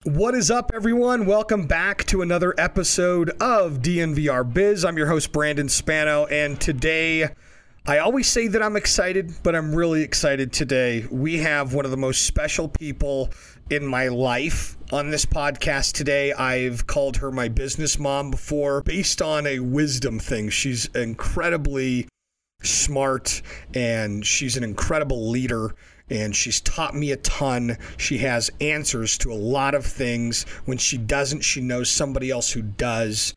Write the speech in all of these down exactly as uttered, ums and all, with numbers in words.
What is up, everyone? Welcome back to another episode of D N V R Biz. I'm your host, Brandon Spano, and today, I always say that I'm excited, but I'm really excited today. We have one of the most special people in my life on this podcast today. I've called her my business mom before, based on a wisdom thing. She's incredibly smart, and she's an incredible leader. And she's taught me a ton. She has answers to a lot of things. When she doesn't, she knows somebody else who does.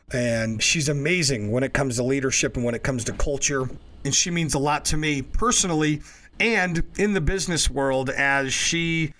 And she's amazing when it comes to leadership and when it comes to culture. And she means a lot to me personally and in the business world, as she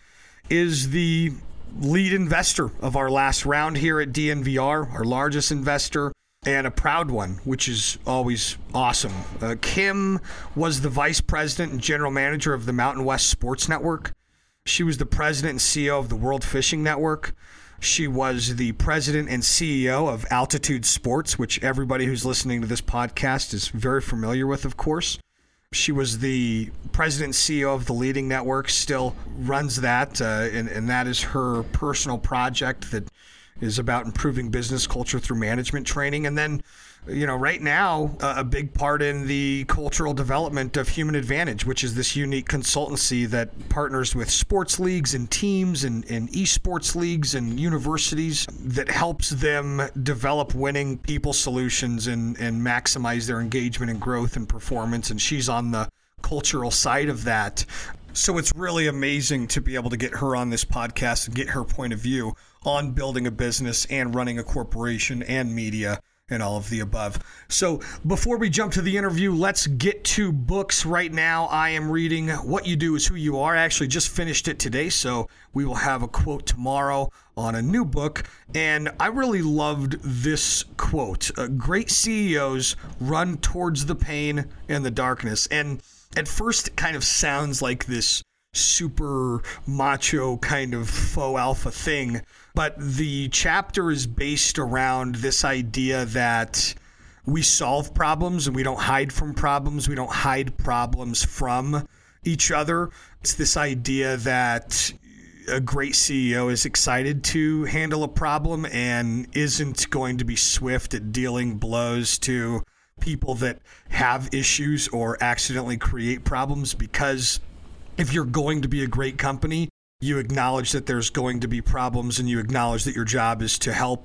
is the lead investor of our last round here at D N V R, our largest investor, and a proud one, which is always awesome. Uh, Kim was the vice president and general manager of the Mountain West Sports Network. She was the president and C E O of the World Fishing Network. She was the president and C E O of Altitude Sports, which everybody who's listening to this podcast is very familiar with, of course. She was the president and C E O of the Leading Network, still runs that, uh, and, and that is her personal project that is about improving business culture through management training. And then, you know, right now, uh, a big part in the cultural development of Human Advantage, which is this unique consultancy that partners with sports leagues and teams and, and esports leagues and universities that helps them develop winning people solutions and, and maximize their engagement and growth and performance. And she's on the cultural side of that. So it's really amazing to be able to get her on this podcast and get her point of view on building a business and running a corporation and media and all of the above. So before we jump to the interview, let's get to books right now. I am reading What You Do Is Who You Are. I actually just finished it today, so we will have a quote tomorrow on a new book. And I really loved this quote. Uh, Great C E Os run towards the pain and the darkness. And at first, it kind of sounds like this super macho kind of faux alpha thing, but the chapter is based around this idea that we solve problems and we don't hide from problems. We don't hide problems from each other. It's this idea that a great C E O is excited to handle a problem and isn't going to be swift at dealing blows to people that have issues or accidentally create problems, because if you're going to be a great company, you acknowledge that there's going to be problems and you acknowledge that your job is to help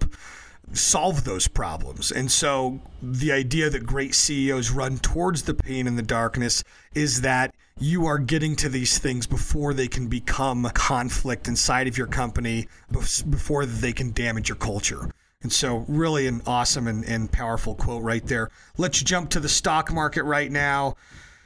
solve those problems. And so the idea that great C E Os run towards the pain and the darkness is that you are getting to these things before they can become conflict inside of your company, before they can damage your culture. And so really an awesome and, and powerful quote right there. Let's jump to the stock market right now.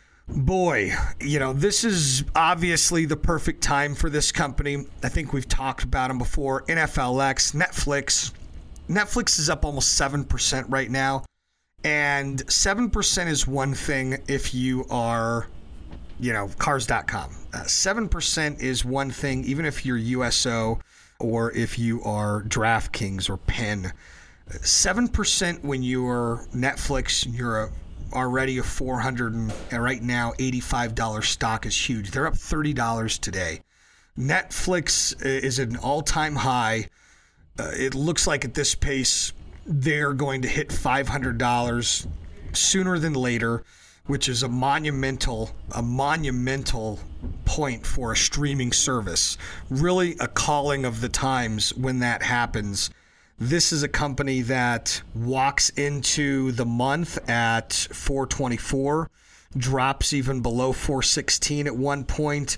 Boy, you know, this is obviously the perfect time for this company. I think we've talked about them before. N F L X, Netflix. Netflix is up almost seven percent right now. And seven percent is one thing if you are, you know, cars dot com. Uh, seven percent is one thing even if you're U S O or if you are DraftKings or Penn. seven percent when you're Netflix, you're a already a four hundred and right now eighty-five dollars stock is huge. They're up thirty dollars today. Netflix is at an all-time high. Uh, it looks like at this pace they're going to hit five hundred dollars sooner than later, which is a monumental a monumental point for a streaming service. Really a calling of the times when that happens. This is a company that walks into the month at four twenty-four, drops even below four sixteen at one point,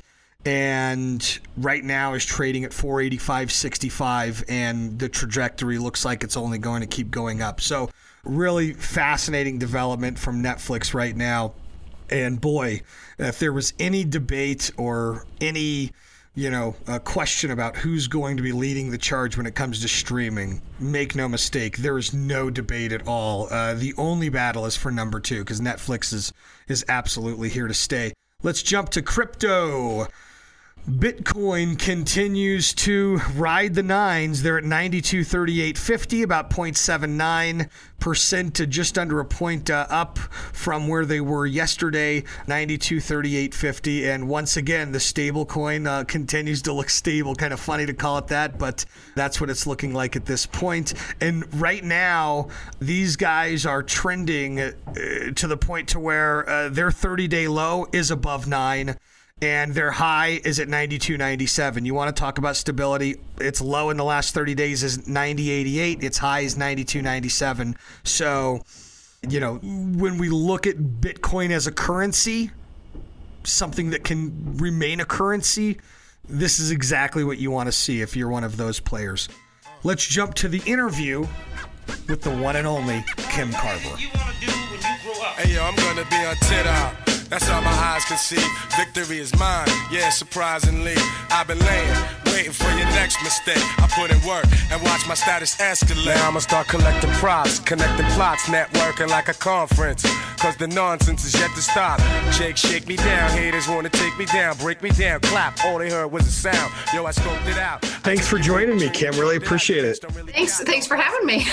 and right now is trading at four eighty-five sixty-five, and the trajectory looks like it's only going to keep going up. So really fascinating development from Netflix right now. And boy, if there was any debate or any you know, a question about who's going to be leading the charge when it comes to streaming, make no mistake, there is no debate at all. Uh, the only battle is for number two, because Netflix is, is absolutely here to stay. Let's jump to crypto. Bitcoin continues to ride the nines. They're at ninety-two thirty-eight fifty, about zero point seven nine percent to just under a point uh, up from where they were yesterday, ninety-two thirty-eight fifty. And once again, the stable coin uh, continues to look stable. Kind of funny to call it that, but that's what it's looking like at this point. And right now, these guys are trending uh, to the point to where uh, their thirty-day low is above nine. And their high is at ninety-two ninety-seven. You want to talk about stability? Its low in the last thirty days is ninety eighty-eight. Its high is ninety-two ninety-seven. So, you know, when we look at Bitcoin as a currency, something that can remain a currency, this is exactly what you want to see if you're one of those players. Let's jump to the interview with the one and only Kim Carver. Hey, yo, I'm going to be on TikTok. That's all my eyes can see. Victory is mine, yeah, surprisingly. I've been laying, waiting for your next mistake. I put in work and watch my status escalate. Now I'ma start collecting props, connecting plots, networking like a conference. Cause the nonsense is yet to stop. Jake, shake me down, haters wanna take me down, break me down, clap. All they heard was a sound. Yo, I scoped it out. Thanks for joining me, Kim. Really appreciate it. Thanks, thanks for having me.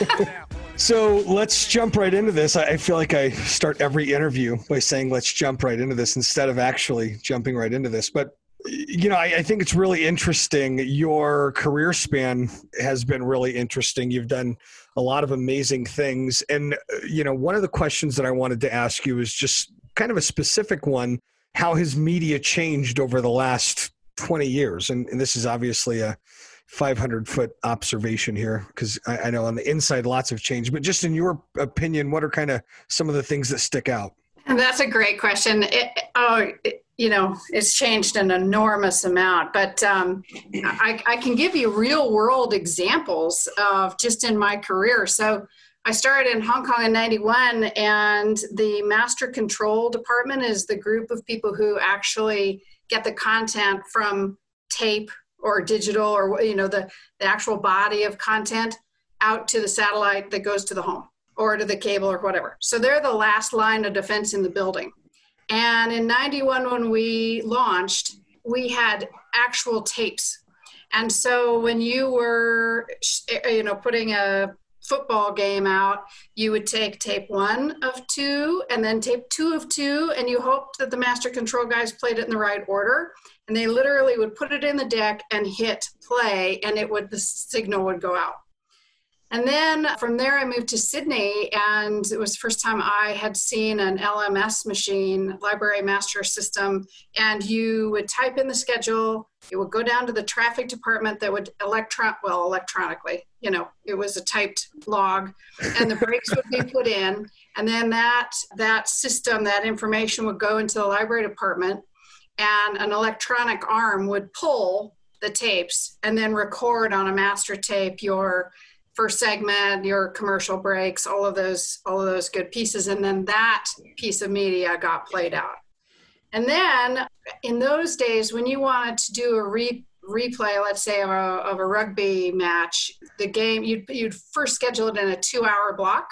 So let's jump right into this. I feel like I start every interview by saying, let's jump right into this instead of actually jumping right into this. But, you know, I, I think it's really interesting. Your career span has been really interesting. You've done a lot of amazing things. And, you know, one of the questions that I wanted to ask you is just kind of a specific one. How has media changed over the last twenty years? And, and this is obviously a five hundred foot observation here, because I, I know on the inside lots have changed, but just in your opinion, what are kind of some of the things that stick out? And that's a great question. It, oh, it, you know, it's changed an enormous amount, but um, I, I can give you real world examples of just in my career. So I started in Hong Kong in ninety-one, and the master control department is the group of people who actually get the content from tape or digital, or, you know, the, the actual body of content out to the satellite that goes to the home or to the cable or whatever. So they're the last line of defense in the building. And in ninety-one, when we launched, we had actual tapes. And so when you were, you know, putting a football game out, you would take tape one of two and then tape two of two, and you hoped that the master control guys played it in the right order. And they literally would put it in the deck and hit play, and it would, the signal would go out. And then from there, I moved to Sydney, and it was the first time I had seen an L M S machine, Library Master System, and you would type in the schedule. It would go down to the traffic department that would electron, well, electronically, you know, it was a typed log, and the brakes would be put in. And then that, that system, that information would go into the library department, and an electronic arm would pull the tapes and then record on a master tape your first segment, your commercial breaks, all of those, all of those good pieces. And then that piece of media got played out. And then in those days, when you wanted to do a re, replay, let's say of a, of a rugby match, the game, you'd, you'd first schedule it in a two hour block.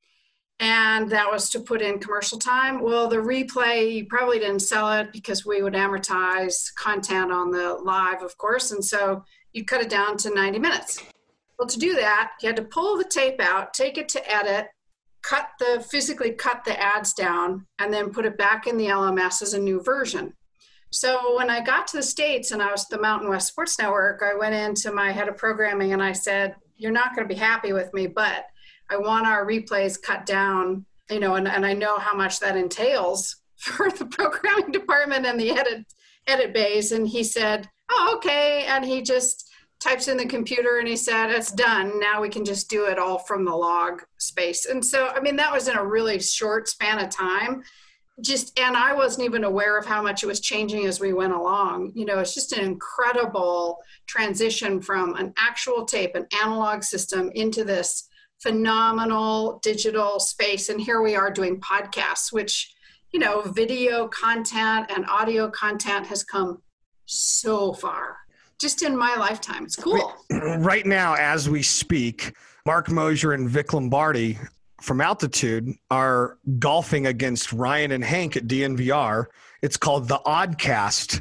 And that was to put in commercial time. Well, the replay, you probably didn't sell it because we would amortize content on the live, of course. And so you'd cut it down to ninety minutes. Well, to do that, you had to pull the tape out, take it to edit, cut the, physically cut the ads down, and then put it back in the L M S as a new version. So when I got to the States and I was at the Mountain West Sports Network, I went into my head of programming and I said, you're not going to be happy with me, but I want our replays cut down, you know, and, and I know how much that entails for the programming department and the edit edit bays. And he said, oh, okay. And he just types in the computer and he said, it's done. Now we can just do it all from the log space. And so, I mean, that was in a really short span of time. Just, and I wasn't even aware of how much it was changing as we went along. You know, it's just an incredible transition from an actual tape, an analog system, into this phenomenal digital space. And here we are doing podcasts, which, you know, video content and audio content has come so far just in my lifetime. It's cool. Right now, as we speak, Mark Mosier and Vic Lombardi from Altitude are golfing against Ryan and Hank at D N V R. It's called the Oddcast.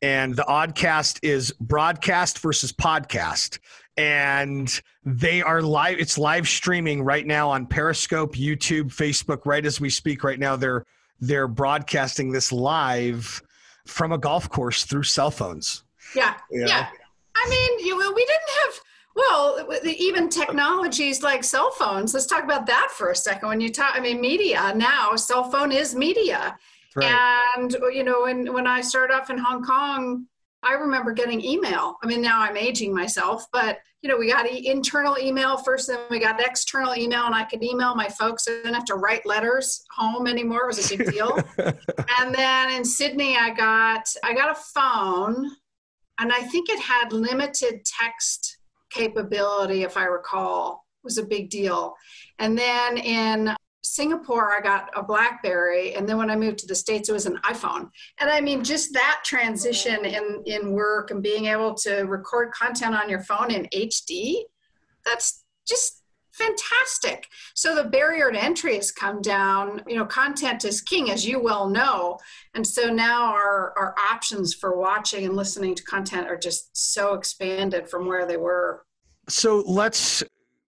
and the Oddcast is broadcast versus podcast. And they are live. It's live streaming right now on Periscope, YouTube, Facebook. Right as we speak right now, they're they're broadcasting this live from a golf course through cell phones. Yeah, you know? yeah. I mean, you, we didn't have, well, even technologies like cell phones. Let's talk about that for a second. When you talk, I mean, media now, cell phone is media. Right. And, you know, when, when I started off in Hong Kong, I remember getting email. I mean, now I'm aging myself, but, you know, we got e- internal email first, then we got external email, and I could email my folks. I didn't have to write letters home anymore. It was a big deal. And then in Sydney, I got, I got a phone, and I think it had limited text capability, if I recall. It was a big deal. And then in Singapore, I got a BlackBerry, and then when I moved to the States, it was an iPhone. And I mean, just that transition in, in work and being able to record content on your phone in H D, that's just fantastic. So the barrier to entry has come down. You know, content is king, as you well know. And so now our, our options for watching and listening to content are just so expanded from where they were. So let's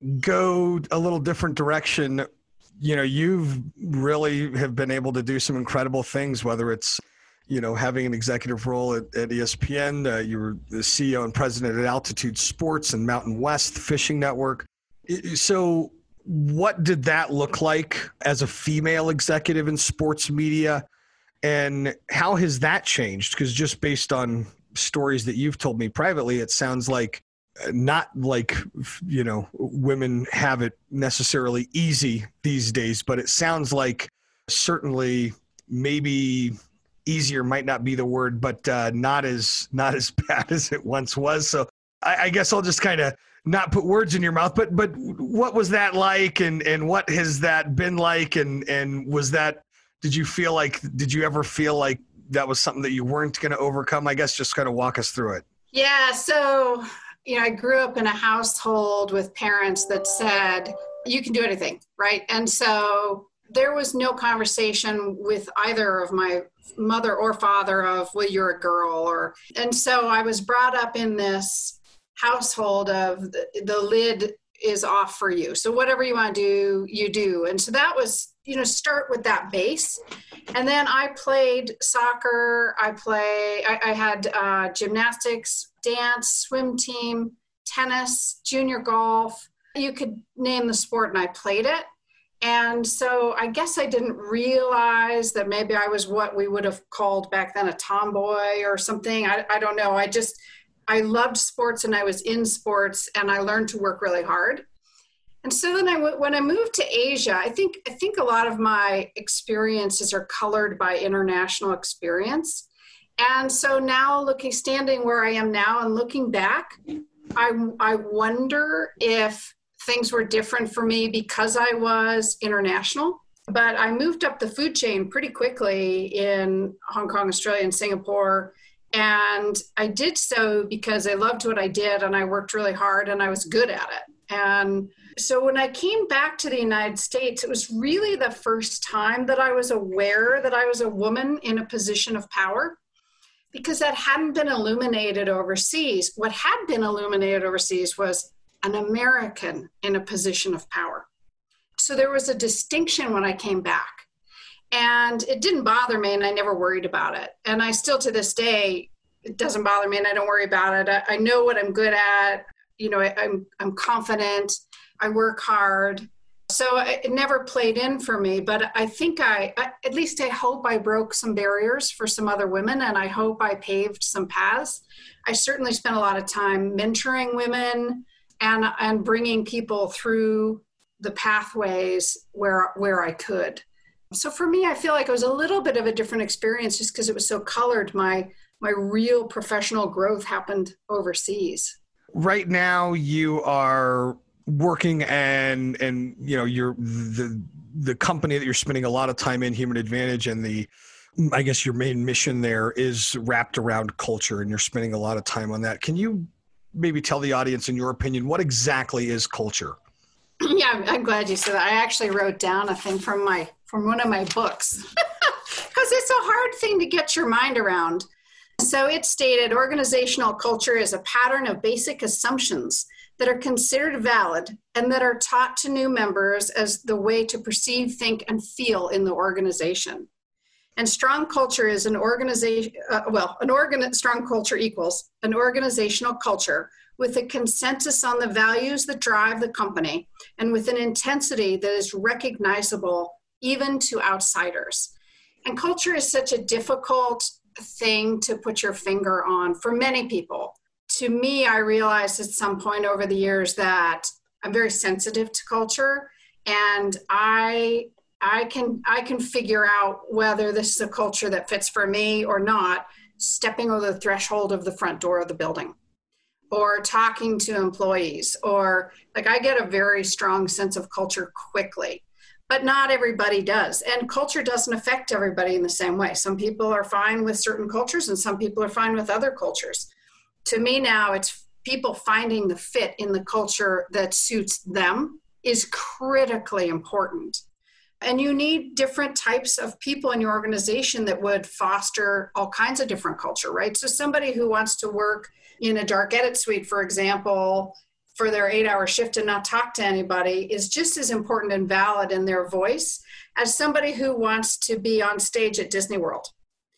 go a little different direction. You know, you've really have been able to do some incredible things, whether it's, you know, having an executive role at, at E S P N, uh, you were the C E O and president at Altitude Sports and Mountain West Fishing Network. So what did that look like as a female executive in sports media? And how has that changed? Because just based on stories that you've told me privately, it sounds like not like, you know, women have it necessarily easy these days, but it sounds like certainly maybe easier might not be the word, but uh, not as not as bad as it once was. So I, I guess I'll just kind of not put words in your mouth, but but what was that like, and and what has that been like, and and was that, did you feel like, did you ever feel like that was something that you weren't going to overcome? I guess just kind of walk us through it. Yeah, so you know, I grew up in a household with parents that said, you can do anything, right? And so there was no conversation with either of my mother or father of, well, you're a girl, or, and so I was brought up in this household of the, the lid is off for you. So whatever you want to do, you do. And so that was, you know, start with that base. And then I played soccer. I play, I, I had uh, gymnastics, dance, swim team, tennis, junior golf. You could name the sport, and I played it. And so I guess I didn't realize that maybe I was what we would have called back then a tomboy or something. I, I don't know. I just, I loved sports, and I was in sports, and I learned to work really hard. And so then I, when I moved to Asia, I think, I think a lot of my experiences are colored by international experience. And so now looking, standing where I am now and looking back, I, I wonder if things were different for me because I was international. But I moved up the food chain pretty quickly in Hong Kong, Australia, and Singapore. And I did so because I loved what I did, and I worked really hard, and I was good at it. And so when I came back to the United States, it was really the first time that I was aware that I was a woman in a position of power, because that hadn't been illuminated overseas. What had been illuminated overseas was an American in a position of power. So there was a distinction when I came back. And it didn't bother me, and I never worried about it. And I still, to this day, it doesn't bother me, and I don't worry about it. I, I know what I'm good at. You know, I, I'm I'm confident. I work hard. So it never played in for me. But I think I, I, at least I hope I broke some barriers for some other women, and I hope I paved some paths. I certainly spent a lot of time mentoring women and and bringing people through the pathways where where I could. So for me, I feel like it was a little bit of a different experience just because it was so colored. My my real professional growth happened overseas. Right now, you are working and and you know you're the the company that you're spending a lot of time in, Human Advantage, and the I guess your main mission there is wrapped around culture, and you're spending a lot of time on that. Can you maybe tell the audience, in your opinion, what exactly is culture? Yeah, I'm glad you said that. I actually wrote down a thing from my from one of my books because it's a hard thing to get your mind around. So it stated organizational culture is a pattern of basic assumptions that are considered valid and that are taught to new members as the way to perceive, think, and feel in the organization. And strong culture is an organization, uh, well, an organ, strong culture equals an organizational culture with a consensus on the values that drive the company and with an intensity that is recognizable even to outsiders. And culture is such a difficult thing to put your finger on for many people. To me, I realized at some point over the years that I'm very sensitive to culture, and I I can I can figure out whether this is a culture that fits for me or not, stepping over the threshold of the front door of the building, or talking to employees, or like I get a very strong sense of culture quickly. But not everybody does. And culture doesn't affect everybody in the same way. Some people are fine with certain cultures and some people are fine with other cultures. To me now, it's people finding the fit in the culture that suits them is critically important. And you need different types of people in your organization that would foster all kinds of different culture, right? So somebody who wants to work in a dark edit suite, for example, for their eight-hour shift and not talk to anybody is just as important and valid in their voice as somebody who wants to be on stage at Disney World.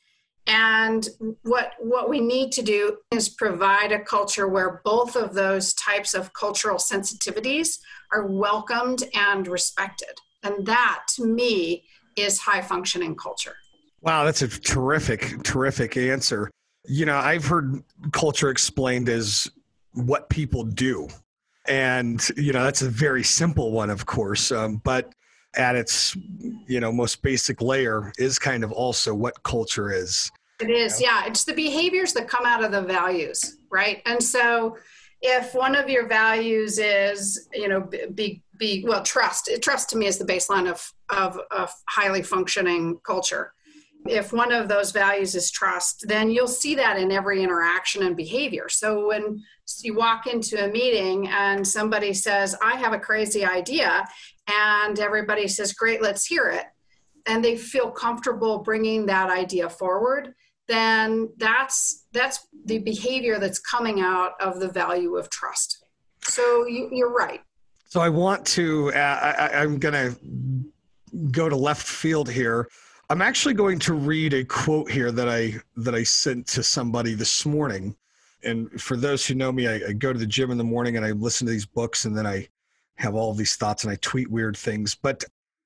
And what what we need to do is provide a culture where both of those types of cultural sensitivities are welcomed and respected. And that, to me, is high-functioning culture. Wow, that's a terrific, terrific answer. You know, I've heard culture explained as what people do. And, you know, that's a very simple one, of course, um, but at its, you know, most basic layer is kind of also what culture is. It is, yeah. It's the behaviors that come out of the values, right? And so if one of your values is, you know, be, be well, trust. Trust to me is the baseline of, of, of highly functioning culture. If one of those values is trust, then you'll see that in every interaction and behavior. So when you walk into a meeting and somebody says, I have a crazy idea, and everybody says, great, let's hear it, and they feel comfortable bringing that idea forward, then that's that's the behavior that's coming out of the value of trust. So you, you're right. So I want to, uh, I, I'm going to go to left field here. I'm actually going to read a quote here that I that I sent to somebody this morning. And for those who know me, I, I go to the gym in the morning and I listen to these books and then I have all these thoughts and I tweet weird things. But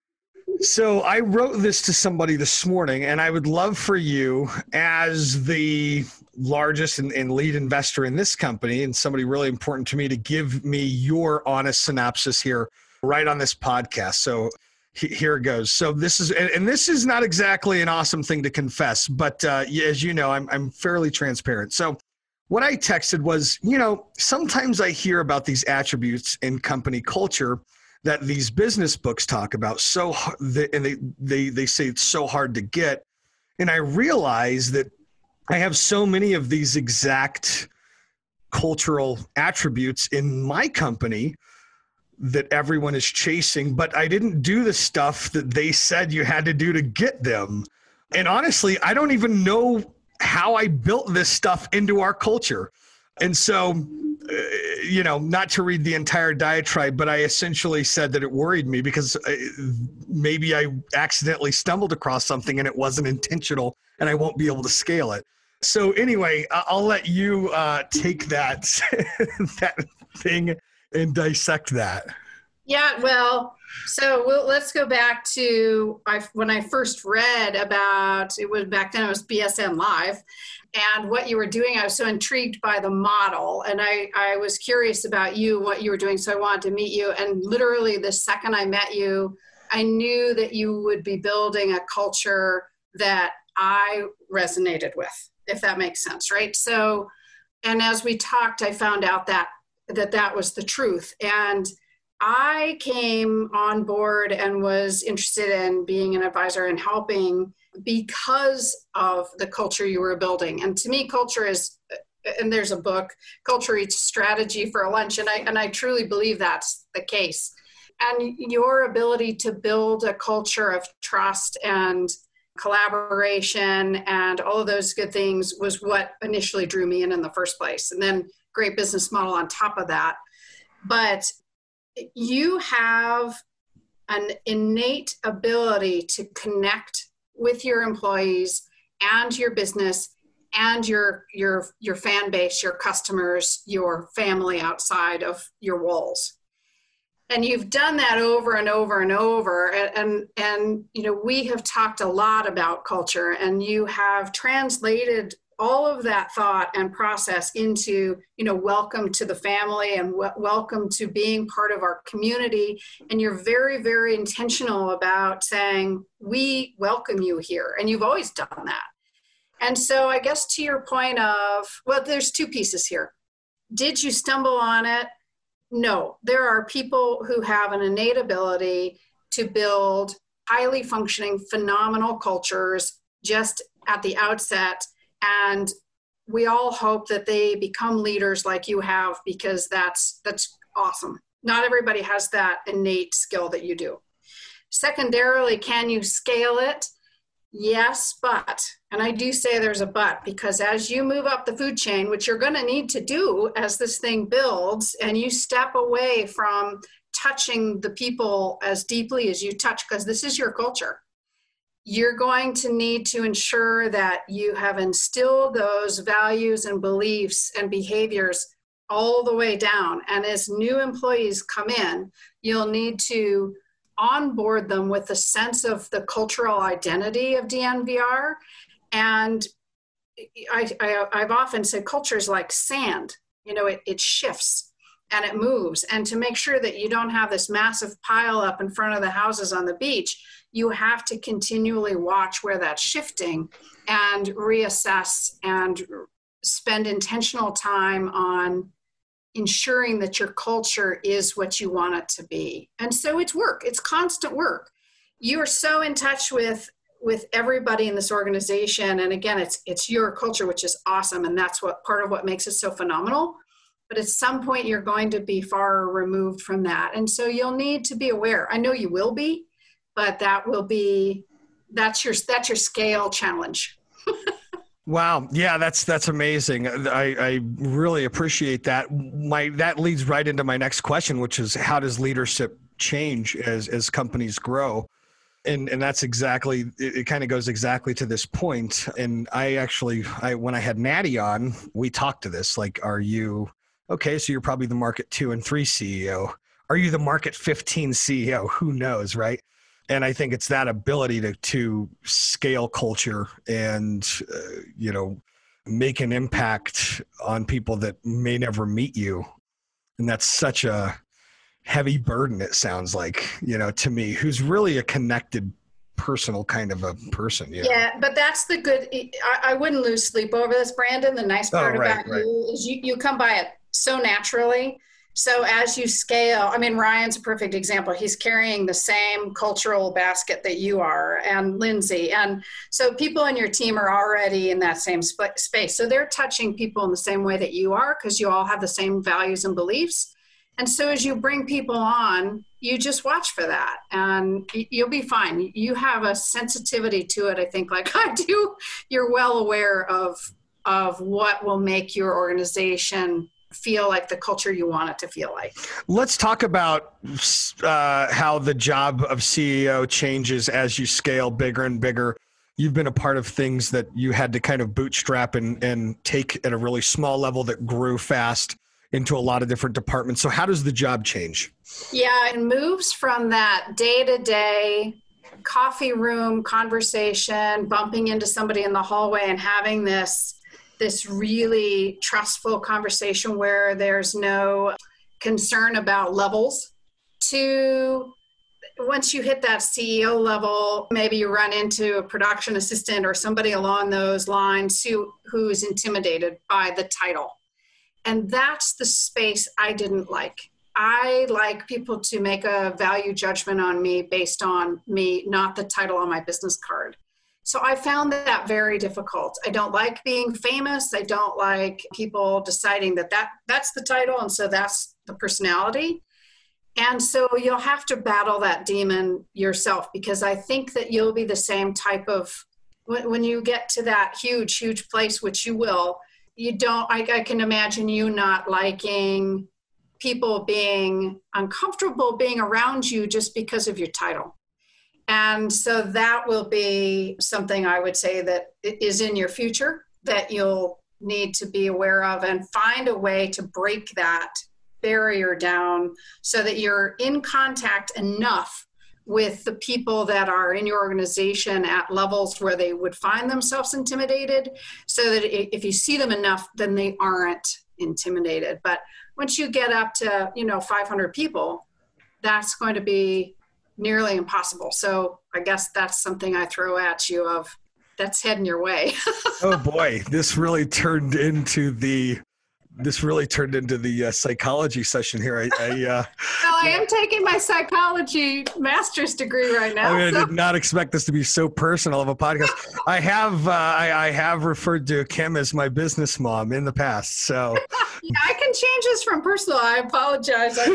so I wrote this to somebody this morning, and I would love for you, as the largest and, and lead investor in this company and somebody really important to me, to give me your honest synopsis here right on this podcast. So here it goes. So this is, and this is not exactly an awesome thing to confess, but uh, as you know, I'm I'm fairly transparent. So what I texted was, you know, sometimes I hear about these attributes in company culture that these business books talk about, so and they they they say it's so hard to get, and I realize that I have so many of these exact cultural attributes in my company that everyone is chasing, but I didn't do the stuff that they said you had to do to get them. And honestly, I don't even know how I built this stuff into our culture. And so, uh, you know, not to read the entire diatribe, but I essentially said that it worried me because I, maybe I accidentally stumbled across something and it wasn't intentional and I won't be able to scale it. So anyway, I'll let you uh, take that, that thing and dissect that. Yeah, well, so we'll, let's go back to I, when I first read about, it was back then it was B S N Live, and what you were doing. I was so intrigued by the model, and I, I was curious about you and what you were doing, so I wanted to meet you. And literally the second I met you, I knew that you would be building a culture that I resonated with, if that makes sense, right? So, and as we talked, I found out that that that was the truth. And I came on board and was interested in being an advisor and helping because of the culture you were building. And to me, culture is, and there's a book, Culture Eats Strategy for a Lunch, and I and I truly believe that's the case. And your ability to build a culture of trust and collaboration, and all of those good things was what initially drew me in in the first place. And then great business model on top of that. But you have an innate ability to connect with your employees and your business and your your your fan base, your customers, your family outside of your walls. And you've done that over and over and over. And, and, and, you know, we have talked a lot about culture, and you have translated all of that thought and process into, you know, welcome to the family and w- welcome to being part of our community. And you're very, very intentional about saying, we welcome you here. And you've always done that. And so I guess to your point of, well, there's two pieces here. Did you stumble on it? No, there are people who have an innate ability to build highly functioning, phenomenal cultures just at the outset. And we all hope that they become leaders like you have, because that's that's awesome. Not everybody has that innate skill that you do. Secondarily, can you scale it? Yes, but, and I do say there's a but, because as you move up the food chain, which you're going to need to do as this thing builds, and you step away from touching the people as deeply as you touch, because this is your culture, you're going to need to ensure that you have instilled those values and beliefs and behaviors all the way down. And as new employees come in, you'll need to onboard them with a sense of the cultural identity of D N V R. And I, I, I've often said culture is like sand. You know, it, it shifts and it moves. And to make sure that you don't have this massive pile up in front of the houses on the beach, you have to continually watch where that's shifting and reassess and spend intentional time on ensuring that your culture is what you want it to be. And so it's work. It's constant work. You are so in touch with, with everybody in this organization. And again, it's, it's your culture, which is awesome. And that's what part of what makes it so phenomenal. But at some point you're going to be far removed from that. And so you'll need to be aware. I know you will be, but that will be, that's your, that's your scale challenge. Wow. Yeah, that's that's amazing. I, I really appreciate that. My that leads right into my next question, which is, how does leadership change as as companies grow? And and that's exactly, it, it kind of goes exactly to this point. And I actually, I when I had Natty on, we talked to this, like, are you, okay, so you're probably the market two and three C E O. Are you the market fifteen C E O? Who knows, right? And I think it's that ability to to scale culture and, uh, you know, make an impact on people that may never meet you. And that's such a heavy burden, it sounds like, you know, to me, who's really a connected, personal kind of a person. You know? Yeah, but that's the good, I, I wouldn't lose sleep over this, Brandon. The nice part oh, right, about right. you is you, you come by it so naturally. So as you scale, I mean, Ryan's a perfect example. He's carrying the same cultural basket that you are, and Lindsay. And so people in your team are already in that same sp- space. So they're touching people in the same way that you are, because you all have the same values and beliefs. And so as you bring people on, you just watch for that and you'll be fine. You have a sensitivity to it, I think, like I do. You're well aware of, of what will make your organization feel like the culture you want it to feel like. Let's talk about uh, how the job of C E O changes as you scale bigger and bigger. You've been a part of things that you had to kind of bootstrap and, and take at a really small level that grew fast into a lot of different departments. So how does the job change? Yeah, it moves from that day-to-day coffee room conversation, bumping into somebody in the hallway and having this this really trustful conversation where there's no concern about levels, to once you hit that C E O level, maybe you run into a production assistant or somebody along those lines who, who's intimidated by the title. And that's the space I didn't like. I like people to make a value judgment on me based on me, not the title on my business card. So I found that very difficult. I don't like being famous. I don't like people deciding that, that that's the title and so that's the personality. And so you'll have to battle that demon yourself, because I think that you'll be the same type of, when, when you get to that huge, huge place, which you will, you don't, I, I can imagine you not liking people being uncomfortable being around you just because of your title. And so that will be something I would say that is in your future that you'll need to be aware of, and find a way to break that barrier down so that you're in contact enough with the people that are in your organization at levels where they would find themselves intimidated, so that if you see them enough, then they aren't intimidated. But once you get up to, you know, five hundred people, that's going to be nearly impossible. So I guess that's something I throw at you of that's heading your way. Oh boy, this really turned into the This really turned into the uh, psychology session here. I, I, uh, well, I am taking my psychology master's degree right now. I mean, so. I did not expect this to be so personal of a podcast. I have, uh, I, I have referred to Kim as my business mom in the past. So yeah, I can change this from personal. I apologize. I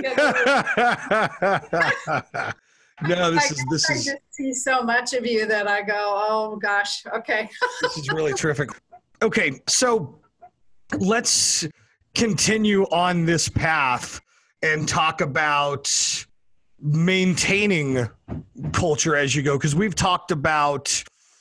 get no, this I is this I is. just see so much of you that I go, oh gosh, okay. This is really terrific. Okay, so let's continue on this path and talk about maintaining culture as you go, because we've talked about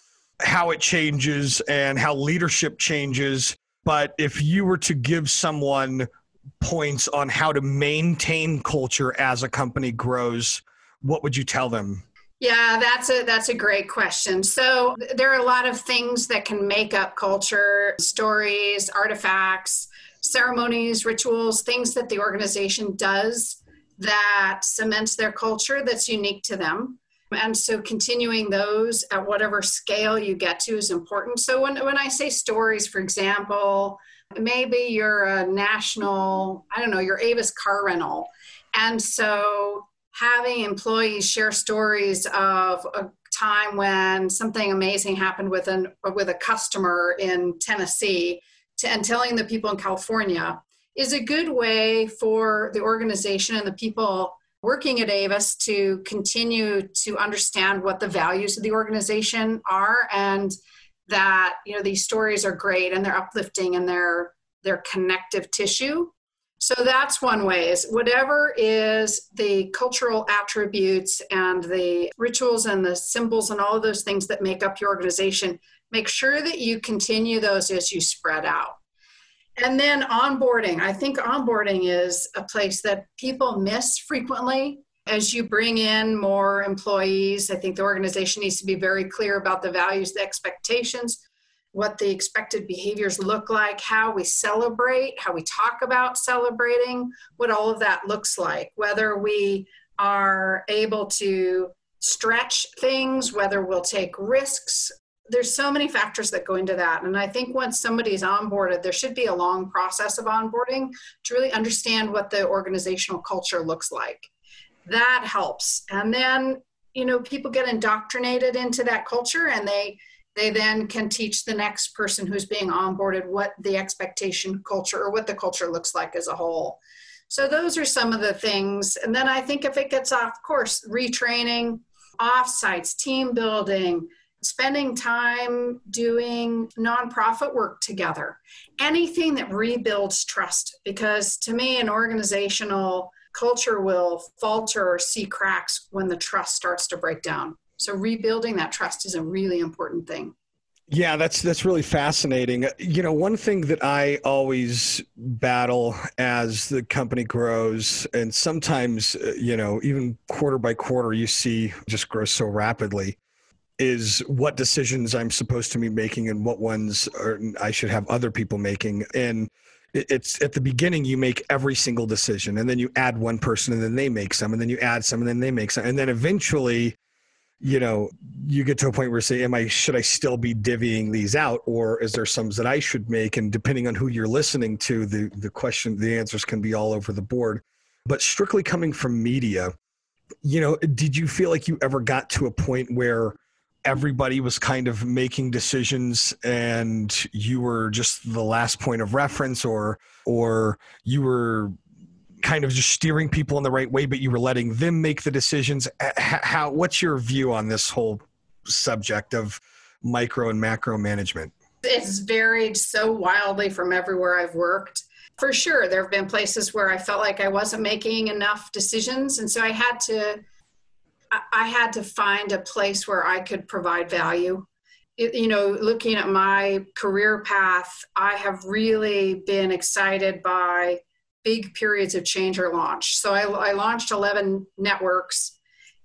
how it changes and how leadership changes. But if you were to give someone points on how to maintain culture as a company grows, what would you tell them? Yeah, that's a that's a great question. So there are a lot of things that can make up culture: stories, artifacts, ceremonies, rituals, things that the organization does that cements their culture that's unique to them. And so continuing those at whatever scale you get to is important. So when, when I say stories, for example, maybe you're a national, I don't know, you're Avis car rental. And so having employees share stories of a time when something amazing happened with an with a customer in Tennessee, to, and telling the people in California is a good way for the organization and the people working at Avis to continue to understand what the values of the organization are, and that, you know, these stories are great and they're uplifting and they're they're connective tissue. So that's one way, is whatever is the cultural attributes and the rituals and the symbols and all of those things that make up your organization, make sure that you continue those as you spread out. And then onboarding. I think onboarding is a place that people miss frequently. As you bring in more employees, I think the organization needs to be very clear about the values, the expectations, what the expected behaviors look like, how we celebrate, how we talk about celebrating, what all of that looks like, whether we are able to stretch things, whether we'll take risks. There's so many factors that go into that. And I think once somebody's onboarded, there should be a long process of onboarding to really understand what the organizational culture looks like. That helps. And then, you know, people get indoctrinated into that culture, and they they then can teach the next person who's being onboarded what the expectation culture or what the culture looks like as a whole. So those are some of the things. And then I think if it gets off course, retraining, offsites, team building, spending time doing nonprofit work together, anything that rebuilds trust. Because to me, an organizational culture will falter or see cracks when the trust starts to break down. So rebuilding that trust is a really important thing. Yeah, that's that's really fascinating. You know, one thing that I always battle as the company grows, and sometimes, you know, even quarter by quarter, you see just grows so rapidly, is what decisions I'm supposed to be making and what ones are, I should have other people making. And it's at the beginning, you make every single decision, and then you add one person, and then they make some, and then you add some, and then they make some. And then eventually, you know, you get to a point where you say, am I, should I still be divvying these out, or is there some that I should make? And depending on who you're listening to, the, the question, the answers can be all over the board. But strictly coming from media, you know, did you feel like you ever got to a point where everybody was kind of making decisions and you were just the last point of reference, or, or you were kind of just steering people in the right way, but you were letting them make the decisions. How, what's your view on this whole subject of micro and macro management? It's varied so wildly from everywhere I've worked. For sure, there have been places where I felt like I wasn't making enough decisions. And so I had to, I had to find a place where I could provide value. It, you know, looking at my career path, I have really been excited by big periods of change or launch. So I, I launched eleven networks,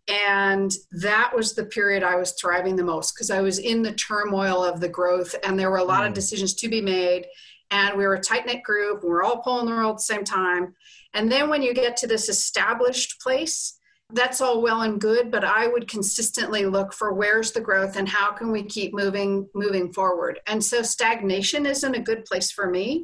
and that was the period I was thriving the most because I was in the turmoil of the growth, and there were a lot mm. of decisions to be made. And we were a tight-knit group. We were all pulling the roll at the same time. And then when you get to this established place, that's all well and good, but I would consistently look for where's the growth and how can we keep moving, moving forward. And so stagnation isn't a good place for me.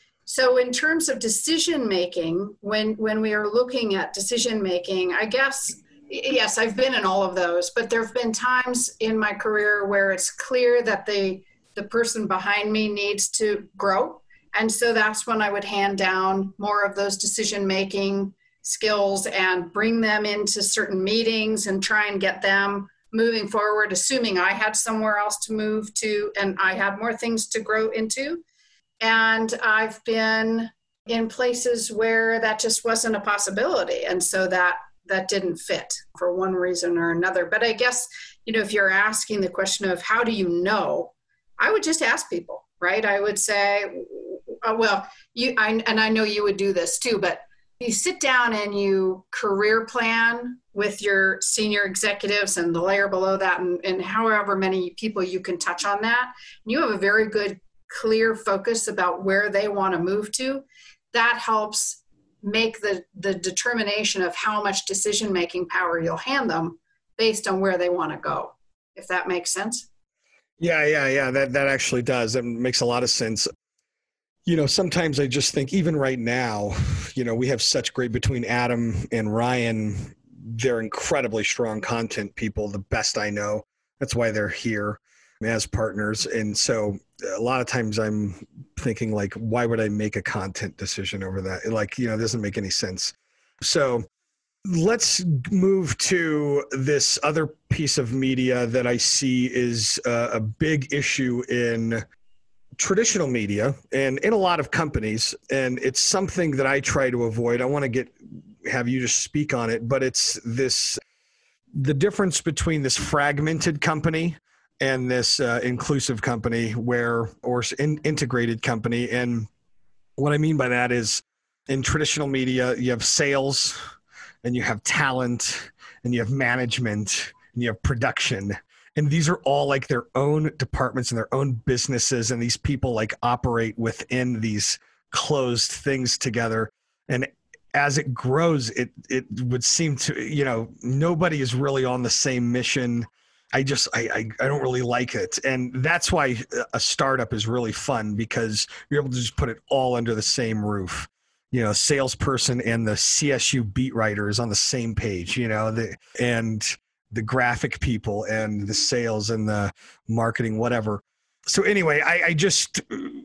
So in terms of decision-making, when, when we are looking at decision-making, I guess, yes, I've been in all of those, but there have been times in my career where it's clear that the the person behind me needs to grow. And so that's when I would hand down more of those decision-making skills and bring them into certain meetings and try and get them moving forward, assuming I had somewhere else to move to and I had more things to grow into. And I've been in places where that just wasn't a possibility. And so that that didn't fit for one reason or another. But I guess, you know, if you're asking the question of how do you know, I would just ask people, right? I would say, well, you, I, and I know you would do this too, but you sit down and you career plan with your senior executives and the layer below that and, and however many people you can touch on that. And you have a very good, clear focus about where they want to move to. That helps make the, the determination of how much decision-making power you'll hand them based on where they want to go, if that makes sense. Yeah, yeah, yeah. That that actually does. That makes a lot of sense. You know, sometimes I just think even right now, you know, we have such great between Adam and Ryan, they're incredibly strong content people, the best I know. That's why they're here as partners. And so a lot of times I'm thinking like, why would I make a content decision over that? Like, you know, it doesn't make any sense. So let's move to this other piece of media that I see is a, a big issue in traditional media and in a lot of companies. And it's something that I try to avoid. I want to get, have you just speak on it, but it's this, the difference between this fragmented company and this uh, inclusive company where, or in, integrated company. And what I mean by that is in traditional media, you have sales, and you have talent, and you have management, and you have production. And these are all like their own departments and their own businesses. And these people like operate within these closed things together. And as it grows, it it would seem to, you know, nobody is really on the same mission. I just, I, I, I don't really like it. And that's why a startup is really fun because you're able to just put it all under the same roof. You know, salesperson and the C S U beat writer is on the same page, you know, the, and the graphic people and the sales and the marketing, whatever. So anyway, I, I just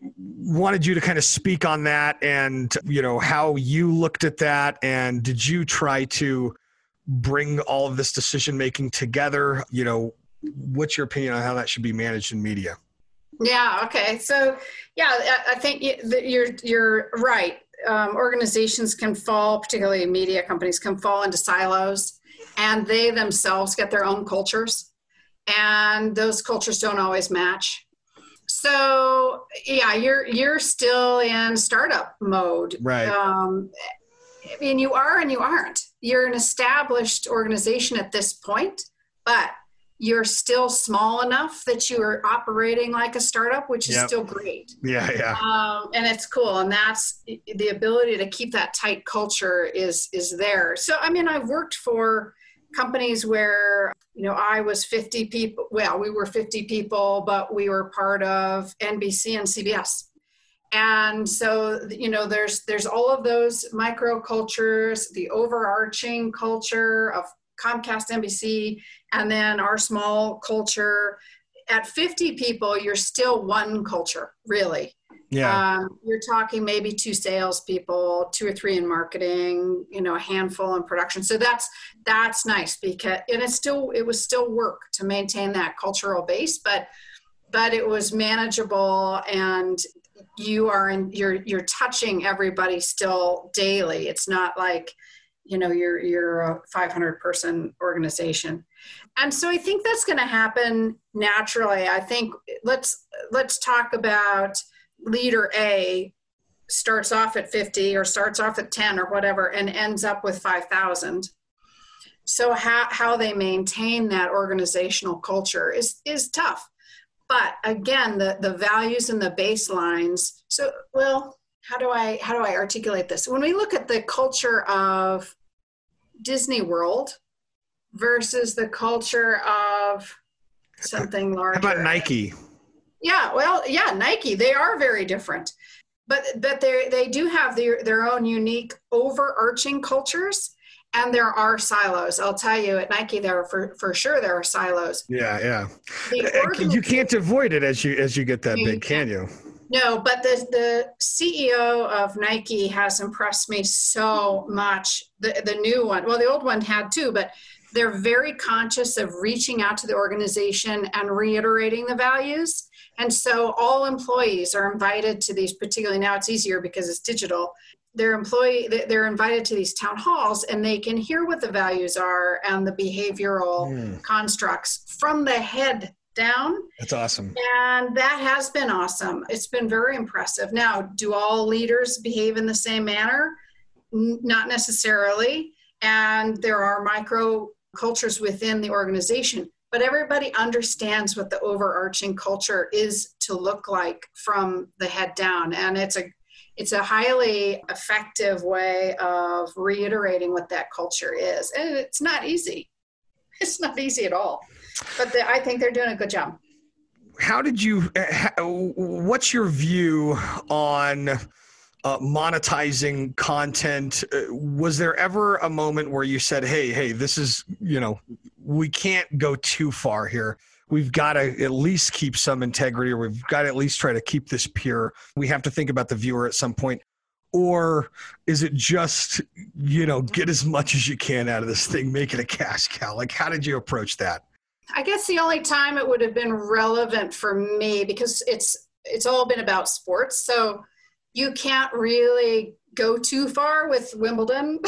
wanted you to kind of speak on that and, you know, how you looked at that. And did you try to bring all of this decision-making together? You know, what's your opinion on how that should be managed in media? Yeah. Okay. So yeah, I, I think you're, you're right. Um, organizations can fall, particularly media companies can fall into silos, and they themselves get their own cultures, and those cultures don't always match. So yeah, you're you're still in startup mode, right? Um, I mean, you are and you aren't. You're an established organization at this point, but you're still small enough that you are operating like a startup, which is yep. still great. Yeah, yeah. Um, and it's cool. And that's the ability to keep that tight culture is is there. So, I mean, I've worked for companies where, you know, I was fifty people. Well, we were fifty people, but we were part of N B C and C B S. And so, you know, there's there's all of those micro cultures, the overarching culture of Comcast, N B C, and then our small culture. At fifty people, you're still one culture, really. Yeah. Um, you're talking maybe two salespeople, two or three in marketing, you know, a handful in production. So that's that's nice because and it's still it was still work to maintain that cultural base, but but it was manageable, and you are in you're you're touching everybody still daily. It's not like, you know, you're you're a five hundred person organization. And so I think that's going to happen naturally. I think let's let's talk about leader A starts off at fifty or starts off at ten or whatever and ends up with five thousand. So how, how they maintain that organizational culture is, is tough. But again, the, the values and the baselines. So, well, how do I, how do I articulate this? When we look at the culture of Disney World versus the culture of something larger. How about Nike? Yeah, well, yeah, Nike, they are very different, but but they they do have their, their own unique overarching cultures, and there are silos. I'll tell you, at Nike, there are for, for sure there are silos. Yeah, yeah. The you can't avoid it as you as you get that big, can you? No, but the the C E O of Nike has impressed me so much. The the new one, well, the old one had too, but they're very conscious of reaching out to the organization and reiterating the values. And so all employees are invited to these, particularly now it's easier because it's digital. They're employee, they're invited to these town halls, and they can hear what the values are and the behavioral mm. constructs from the head down. That's awesome. And that has been awesome. It's been very impressive. Now, do all leaders behave in the same manner? N- not necessarily. And there are micro cultures within the organization, but everybody understands what the overarching culture is to look like from the head down. And it's a it's a highly effective way of reiterating what that culture is. And it's not easy. It's not easy at all. But the, I think they're doing a good job. How did you, what's your view on uh, monetizing content? Uh, was there ever a moment where you said, hey, hey, this is, you know, we can't go too far here. We've got to at least keep some integrity, or we've got to at least try to keep this pure. We have to think about the viewer at some point. Or is it just, you know, get as much as you can out of this thing, make it a cash cow? Like, how did you approach that? I guess the only time it would have been relevant for me, because it's it's all been about sports, so you can't really go too far with Wimbledon.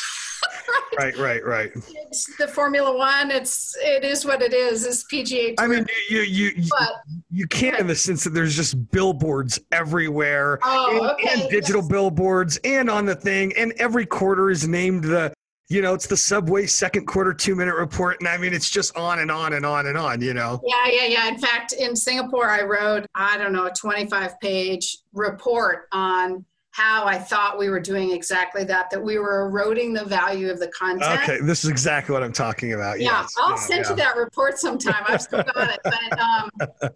Right, right, right. It's the Formula One. It's it is what it is. It's P G A Tour. I mean, you you you, but, you can't but, in the sense that there's just billboards everywhere, oh, and, okay. and digital yes. billboards, and on the thing, and every quarter is named the. You know, it's the Subway second quarter two-minute report. And I mean, it's just on and on and on and on, you know? Yeah, yeah, yeah. In fact, in Singapore, I wrote, I don't know, a twenty-five page report on how I thought we were doing exactly that, that we were eroding the value of the content. Okay, this is exactly what I'm talking about. Yeah, yes. I'll yeah, send yeah. you that report sometime. I've still got it. But, um,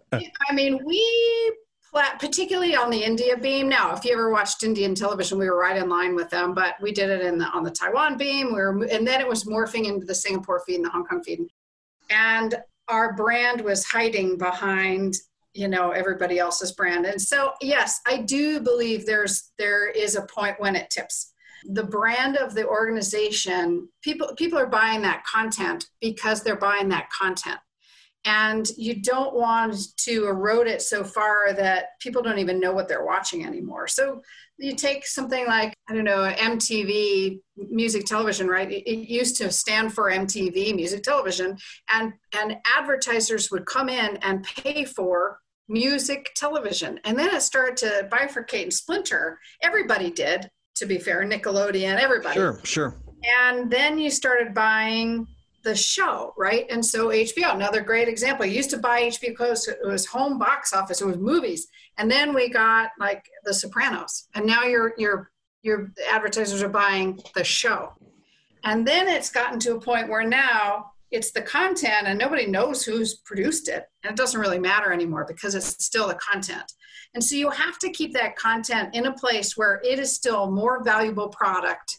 I mean, we... particularly on the India beam. Now, if you ever watched Indian television, we were right in line with them, but we did it in the, on the Taiwan beam. We were, and then it was morphing into the Singapore feed and the Hong Kong feed. And our brand was hiding behind, you know, everybody else's brand. And so, yes, I do believe there's, there is a point when it tips. The brand of the organization, people, people are buying that content because they're buying that content. And you don't want to erode it so far that people don't even know what they're watching anymore. So you take something like, I don't know, M T V, music television, right? It, it used to stand for M T V, music television, and, and advertisers would come in and pay for music television. And then it started to bifurcate and splinter. Everybody did, to be fair, Nickelodeon, everybody. Sure, sure. And then you started buying the show, right? And so H B O, another great example. You used to buy H B O because it was home box office, it was movies. And then we got like The Sopranos. And now your your your advertisers are buying the show. And then it's gotten to a point where now it's the content and nobody knows who's produced it. And it doesn't really matter anymore because it's still the content. And so you have to keep that content in a place where it is still more valuable product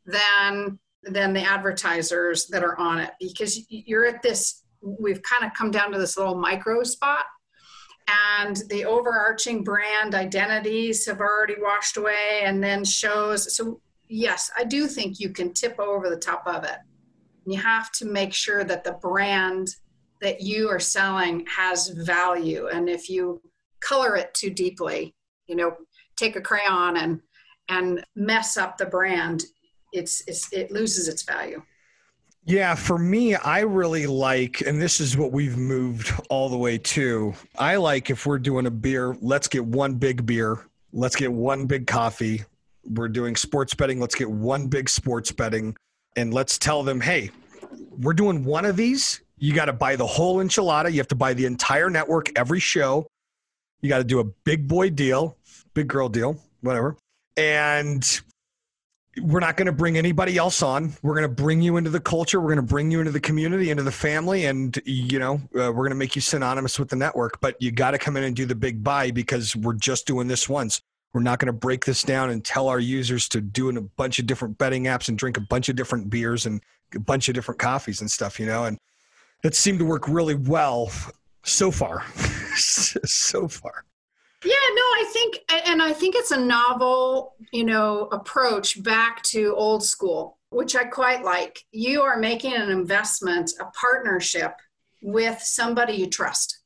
than than the advertisers that are on it, because you're at this, we've kind of come down to this little micro spot. and the overarching brand identities have already washed away, and then shows. So yes, I do think you can tip over the top of it. You have to make sure that the brand that you are selling has value. And if you color it too deeply, you know, take a crayon and and mess up the brand, it's, it's it loses its value. Yeah, for me, I really like, and this is what we've moved all the way to, I like if we're doing a beer, let's get one big beer, let's get one big coffee. We're doing sports betting, let's get one big sports betting, and let's tell them, hey, we're doing one of these. You got to buy the whole enchilada. You have to buy the entire network, every show. You got to do a big boy deal, big girl deal, whatever. And we're not going to bring anybody else on. We're going to bring you into the culture. We're going to bring you into the community, into the family. And, you know, uh, we're going to make you synonymous with the network, but you got to come in and do the big buy because we're just doing this once. We're not going to break this down and tell our users to do in a bunch of different betting apps and drink a bunch of different beers and a bunch of different coffees and stuff, you know, and it seemed to work really well so far, so far. Yeah, no, I think, and I think it's a novel, you know, approach back to old school, which I quite like. You are making an investment, a partnership with somebody you trust.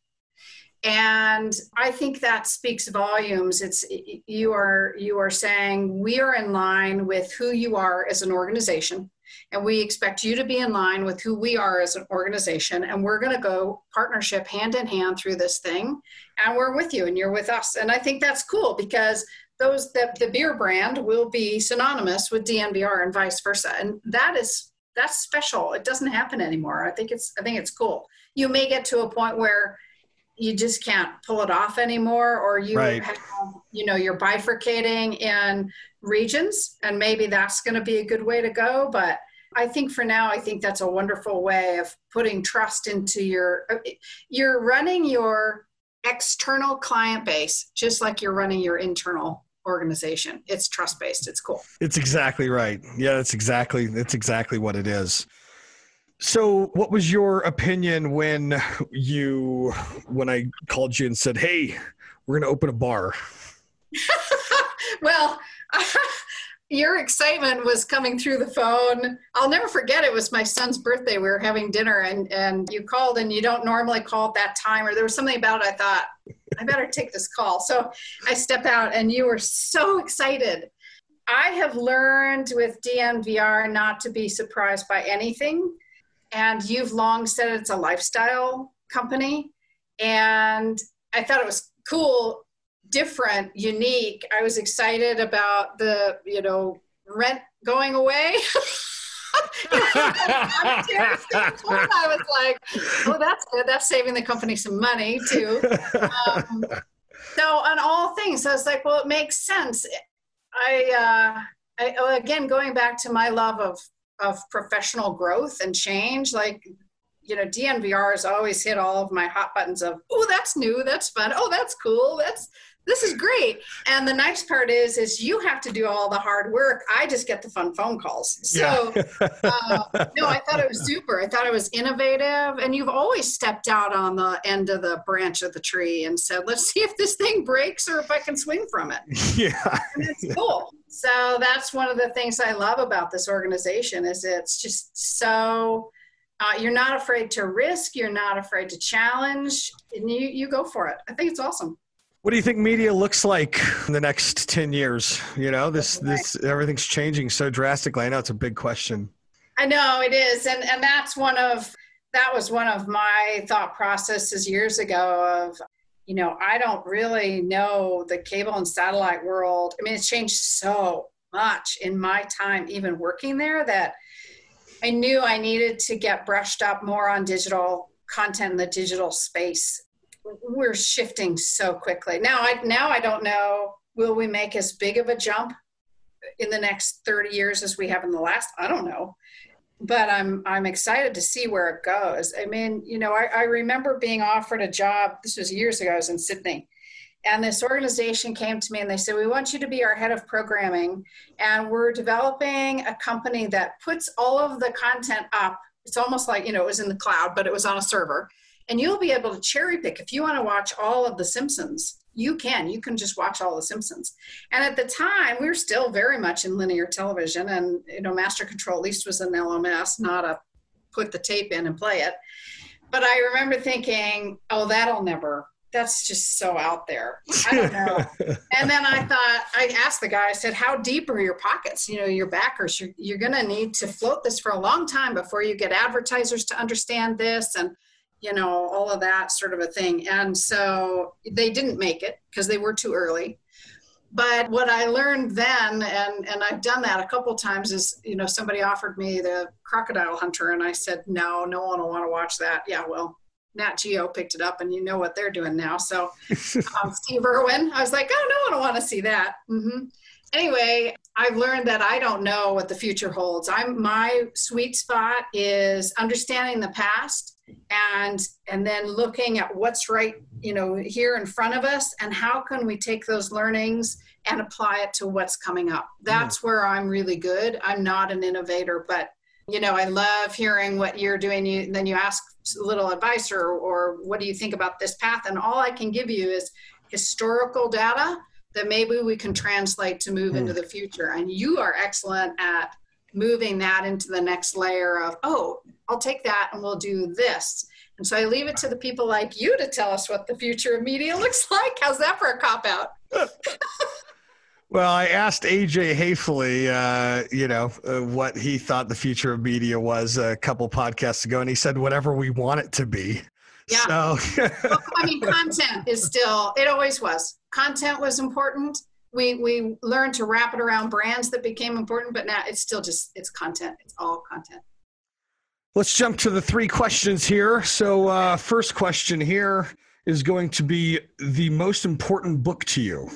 And I think that speaks volumes. It's, you are, you are saying we are in line with who you are as an organization. And we expect you to be in line with who we are as an organization. And we're going to go partnership hand in hand through this thing. And we're with you and you're with us. And I think that's cool because those the, the beer brand will be synonymous with D N V R and vice versa. And that is, that's special. It doesn't happen anymore. I think it's, I think it's cool. You may get to a point where you just can't pull it off anymore, or you right. have, you know, you're bifurcating in regions, and maybe that's going to be a good way to go. But I think for now, I think that's a wonderful way of putting trust into your, you're running your external client base, just like you're running your internal organization. It's trust-based. It's cool. It's exactly right. Yeah, that's exactly, that's exactly what it is. So what was your opinion when you, when I called you and said, hey, we're going to open a bar? Well, your excitement was coming through the phone. I'll never forget, it was my son's birthday. We were having dinner and, and you called, and you don't normally call at that time, or there was something about it. I thought, I better take this call. So I step out and you were so excited. I have learned with D N V R not to be surprised by anything. And you've long said it's a lifestyle company. And I thought it was cool, different, unique. I was excited about the, you know, rent going away. I was like, oh, that's good. That's saving the company some money too. Um, so on all things, I was like, well, it makes sense. I, uh, I, again, going back to my love of, of professional growth and change, like, you know, D N V R has always hit all of my hot buttons of, oh, that's new, that's fun, oh, that's cool, that's, this is great. And the nice part is, is you have to do all the hard work. I just get the fun phone calls. So, yeah. uh, no, I thought it was super. I thought it was innovative. And you've always stepped out on the end of the branch of the tree and said, let's see if this thing breaks or if I can swing from it. Yeah. And it's cool. So that's one of the things I love about this organization is it's just so, uh, you're not afraid to risk. You're not afraid to challenge, and you, you go for it. I think it's awesome. What do you think media looks like in the next ten years? You know, this, this, everything's changing so drastically. I know it's a big question. I know it is. And, and that's one of, that was one of my thought processes years ago of, you know, I don't really know the cable and satellite world. I mean, it's changed so much in my time, even working there, that I knew I needed to get brushed up more on digital content in the digital space. We're shifting so quickly. Now I, now I don't know, will we make as big of a jump in the next thirty years as we have in the last? I don't know, but I'm, I'm excited to see where it goes. I mean, you know, I, I remember being offered a job. This was years ago. I was in Sydney, and this organization came to me and they said, we want you to be our head of programming. And we're developing a company that puts all of the content up. It's almost like, you know, it was in the cloud, but it was on a server. and you'll be able to cherry pick. If you want to watch all of The Simpsons, you can. You can just watch all The Simpsons. And at the time, we were still very much in linear television, and you know, Master Control at least was an L M S, not a put the tape in and play it. But I remember thinking, oh, that'll never, that's just so out there. I don't know. And then I thought, I asked the guy, I said, how deep are your pockets? You know, your backers, you're, you're going to need to float this for a long time before you get advertisers to understand this and, you know, all of that sort of a thing. And so they didn't make it because they were too early. But what I learned then, and, and I've done that a couple of times, is, you know, somebody offered me the Crocodile Hunter, and I said, no, no one will want to watch that. Yeah, well, Nat Geo picked it up, and you know what they're doing now. So um, Steve Irwin, I was like, oh, no one will want to see that. Mm-hmm. Anyway, I've learned that I don't know what the future holds. I'm my sweet spot is understanding the past and and then looking at what's right, you know, here in front of us, and how can we take those learnings and apply it to what's coming up. That's mm. where I'm really good. I'm not an innovator, but you know, I love hearing what you're doing. You then you ask a little advice, or or what do you think about this path? And all I can give you is historical data that maybe we can translate to move mm. into the future. And you are excellent at moving that into the next layer of, oh, I'll take that and we'll do this. And so I leave it to the people like you to tell us what the future of media looks like. How's that for a cop-out? Well, I asked A J Hayfley, uh, you know, uh, what he thought the future of media was a couple podcasts ago, and he said whatever we want it to be. Yeah. So. Well, I mean, content is still, it always was. Content was important. We we learned to wrap it around brands that became important, but now it's still just, it's content. It's all content. Let's jump to the three questions here. So uh, first question here is going to be the most important book to you.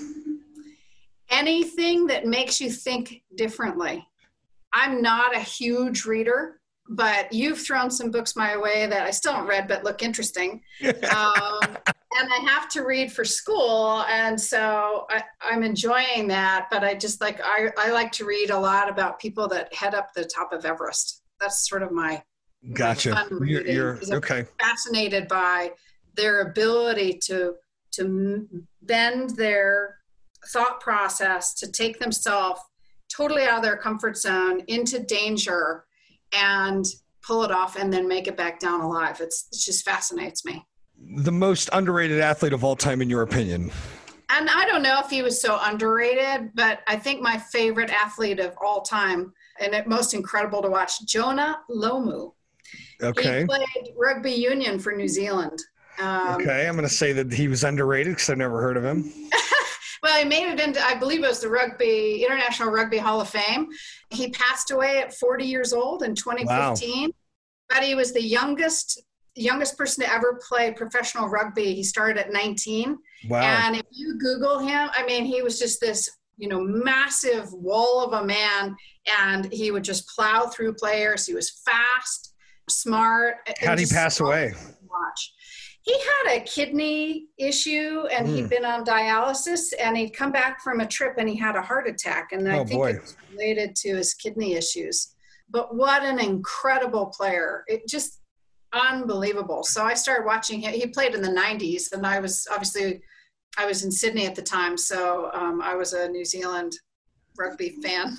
Anything that makes you think differently. I'm not a huge reader, but you've thrown some books my way that I still haven't read, but look interesting. Um, and I have to read for school. And so I, I'm enjoying that, but I just like, I, I like to read a lot about people that head up the top of Everest. That's sort of my, gotcha. my fun You're, reading. you're okay. I'm fascinated by their ability to, to bend their thought process, to take themselves totally out of their comfort zone into danger and pull it off and then make it back down alive. It's, it just fascinates me. The most underrated athlete of all time, in your opinion? And I don't know if he was so underrated, but I think my favorite athlete of all time, and it most incredible to watch, Jonah Lomu. Okay. He played rugby union for New Zealand. Um, okay, I'm going to say that he was underrated because I've never heard of him. Well, he made it into, I believe it was the Rugby, International Rugby Hall of Fame. He passed away at forty years old in twenty fifteen, wow. But he was the youngest youngest person to ever play professional rugby. He started at nineteen. Wow. And if you Google him, I mean, he was just this, you know, massive wall of a man, and he would just plow through players. He was fast, smart. How did he pass away? Watch. He had a kidney issue, and mm. he'd been on dialysis, and he'd come back from a trip and he had a heart attack. And I oh, think boy. it was related to his kidney issues. But what an incredible player. It just unbelievable. So I started watching him. He played in the nineties, and I was obviously, I was in Sydney at the time. So um, I was a New Zealand rugby fan.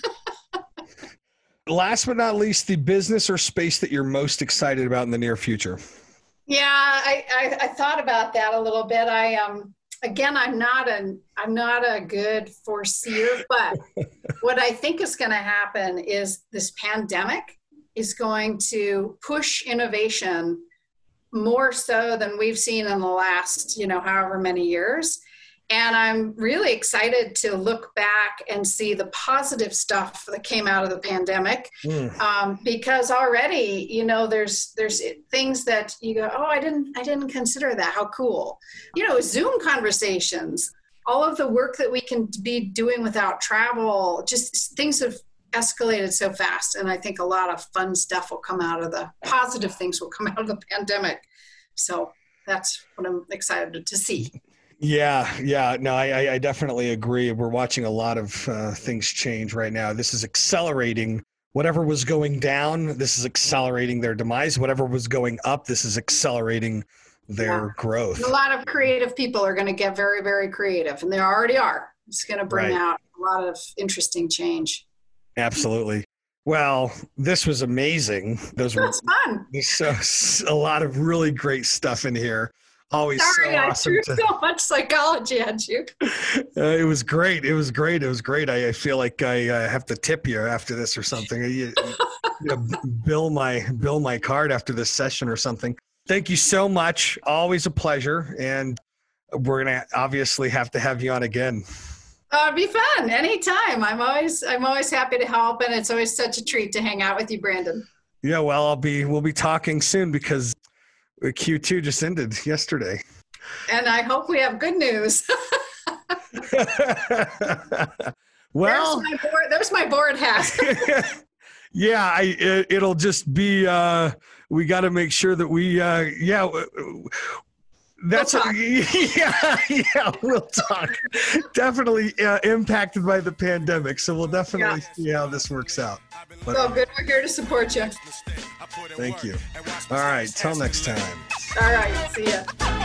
Last but not least, the business or space that you're most excited about in the near future. Yeah, I, I, I thought about that a little bit. I um again, I'm not an I'm not a good foreseer, but what I think is going to happen is this pandemic is going to push innovation more so than we've seen in the last, you know, however many years. And I'm really excited to look back and see the positive stuff that came out of the pandemic, mm. um, because already, you know, there's there's things that you go, oh, I didn't I didn't consider that. How cool, you know, Zoom conversations, all of the work that we can be doing without travel, just things have escalated so fast. And I think a lot of fun stuff will come out of the positive things will come out of the pandemic. So that's what I'm excited to see. Yeah, yeah, no, I, I definitely agree. We're watching a lot of uh, things change right now. This is accelerating whatever was going down. This is accelerating their demise. Whatever was going up, this is accelerating their Yeah. growth. A lot of creative people are going to get very, very creative, and they already are. It's going to bring Right. out a lot of interesting change. Absolutely. Well, this was amazing. Those were That's fun. there's so, a lot of really great stuff in here. Always Sorry, so I awesome threw to, so much psychology at you. uh, it was great. It was great. It was great. I, I feel like I uh, have to tip you after this or something. You, you know, bill my bill my card after this session or something. Thank you so much. Always a pleasure, and we're gonna obviously have to have you on again. Oh, it'd be fun anytime. I'm always I'm always happy to help, and it's always such a treat to hang out with you, Brandon. Yeah, well, I'll be we'll be talking soon because Q two just ended yesterday. And I hope we have good news. Well, there's my board, there's my board hat. yeah, I it, it'll just be uh we got to make sure that we uh yeah that's We'll a, yeah yeah we'll talk. Definitely uh, impacted by the pandemic, so we'll definitely Yeah. see how this works out. But So good. We're here to support you. thank you. All right, till next time. All right. See ya.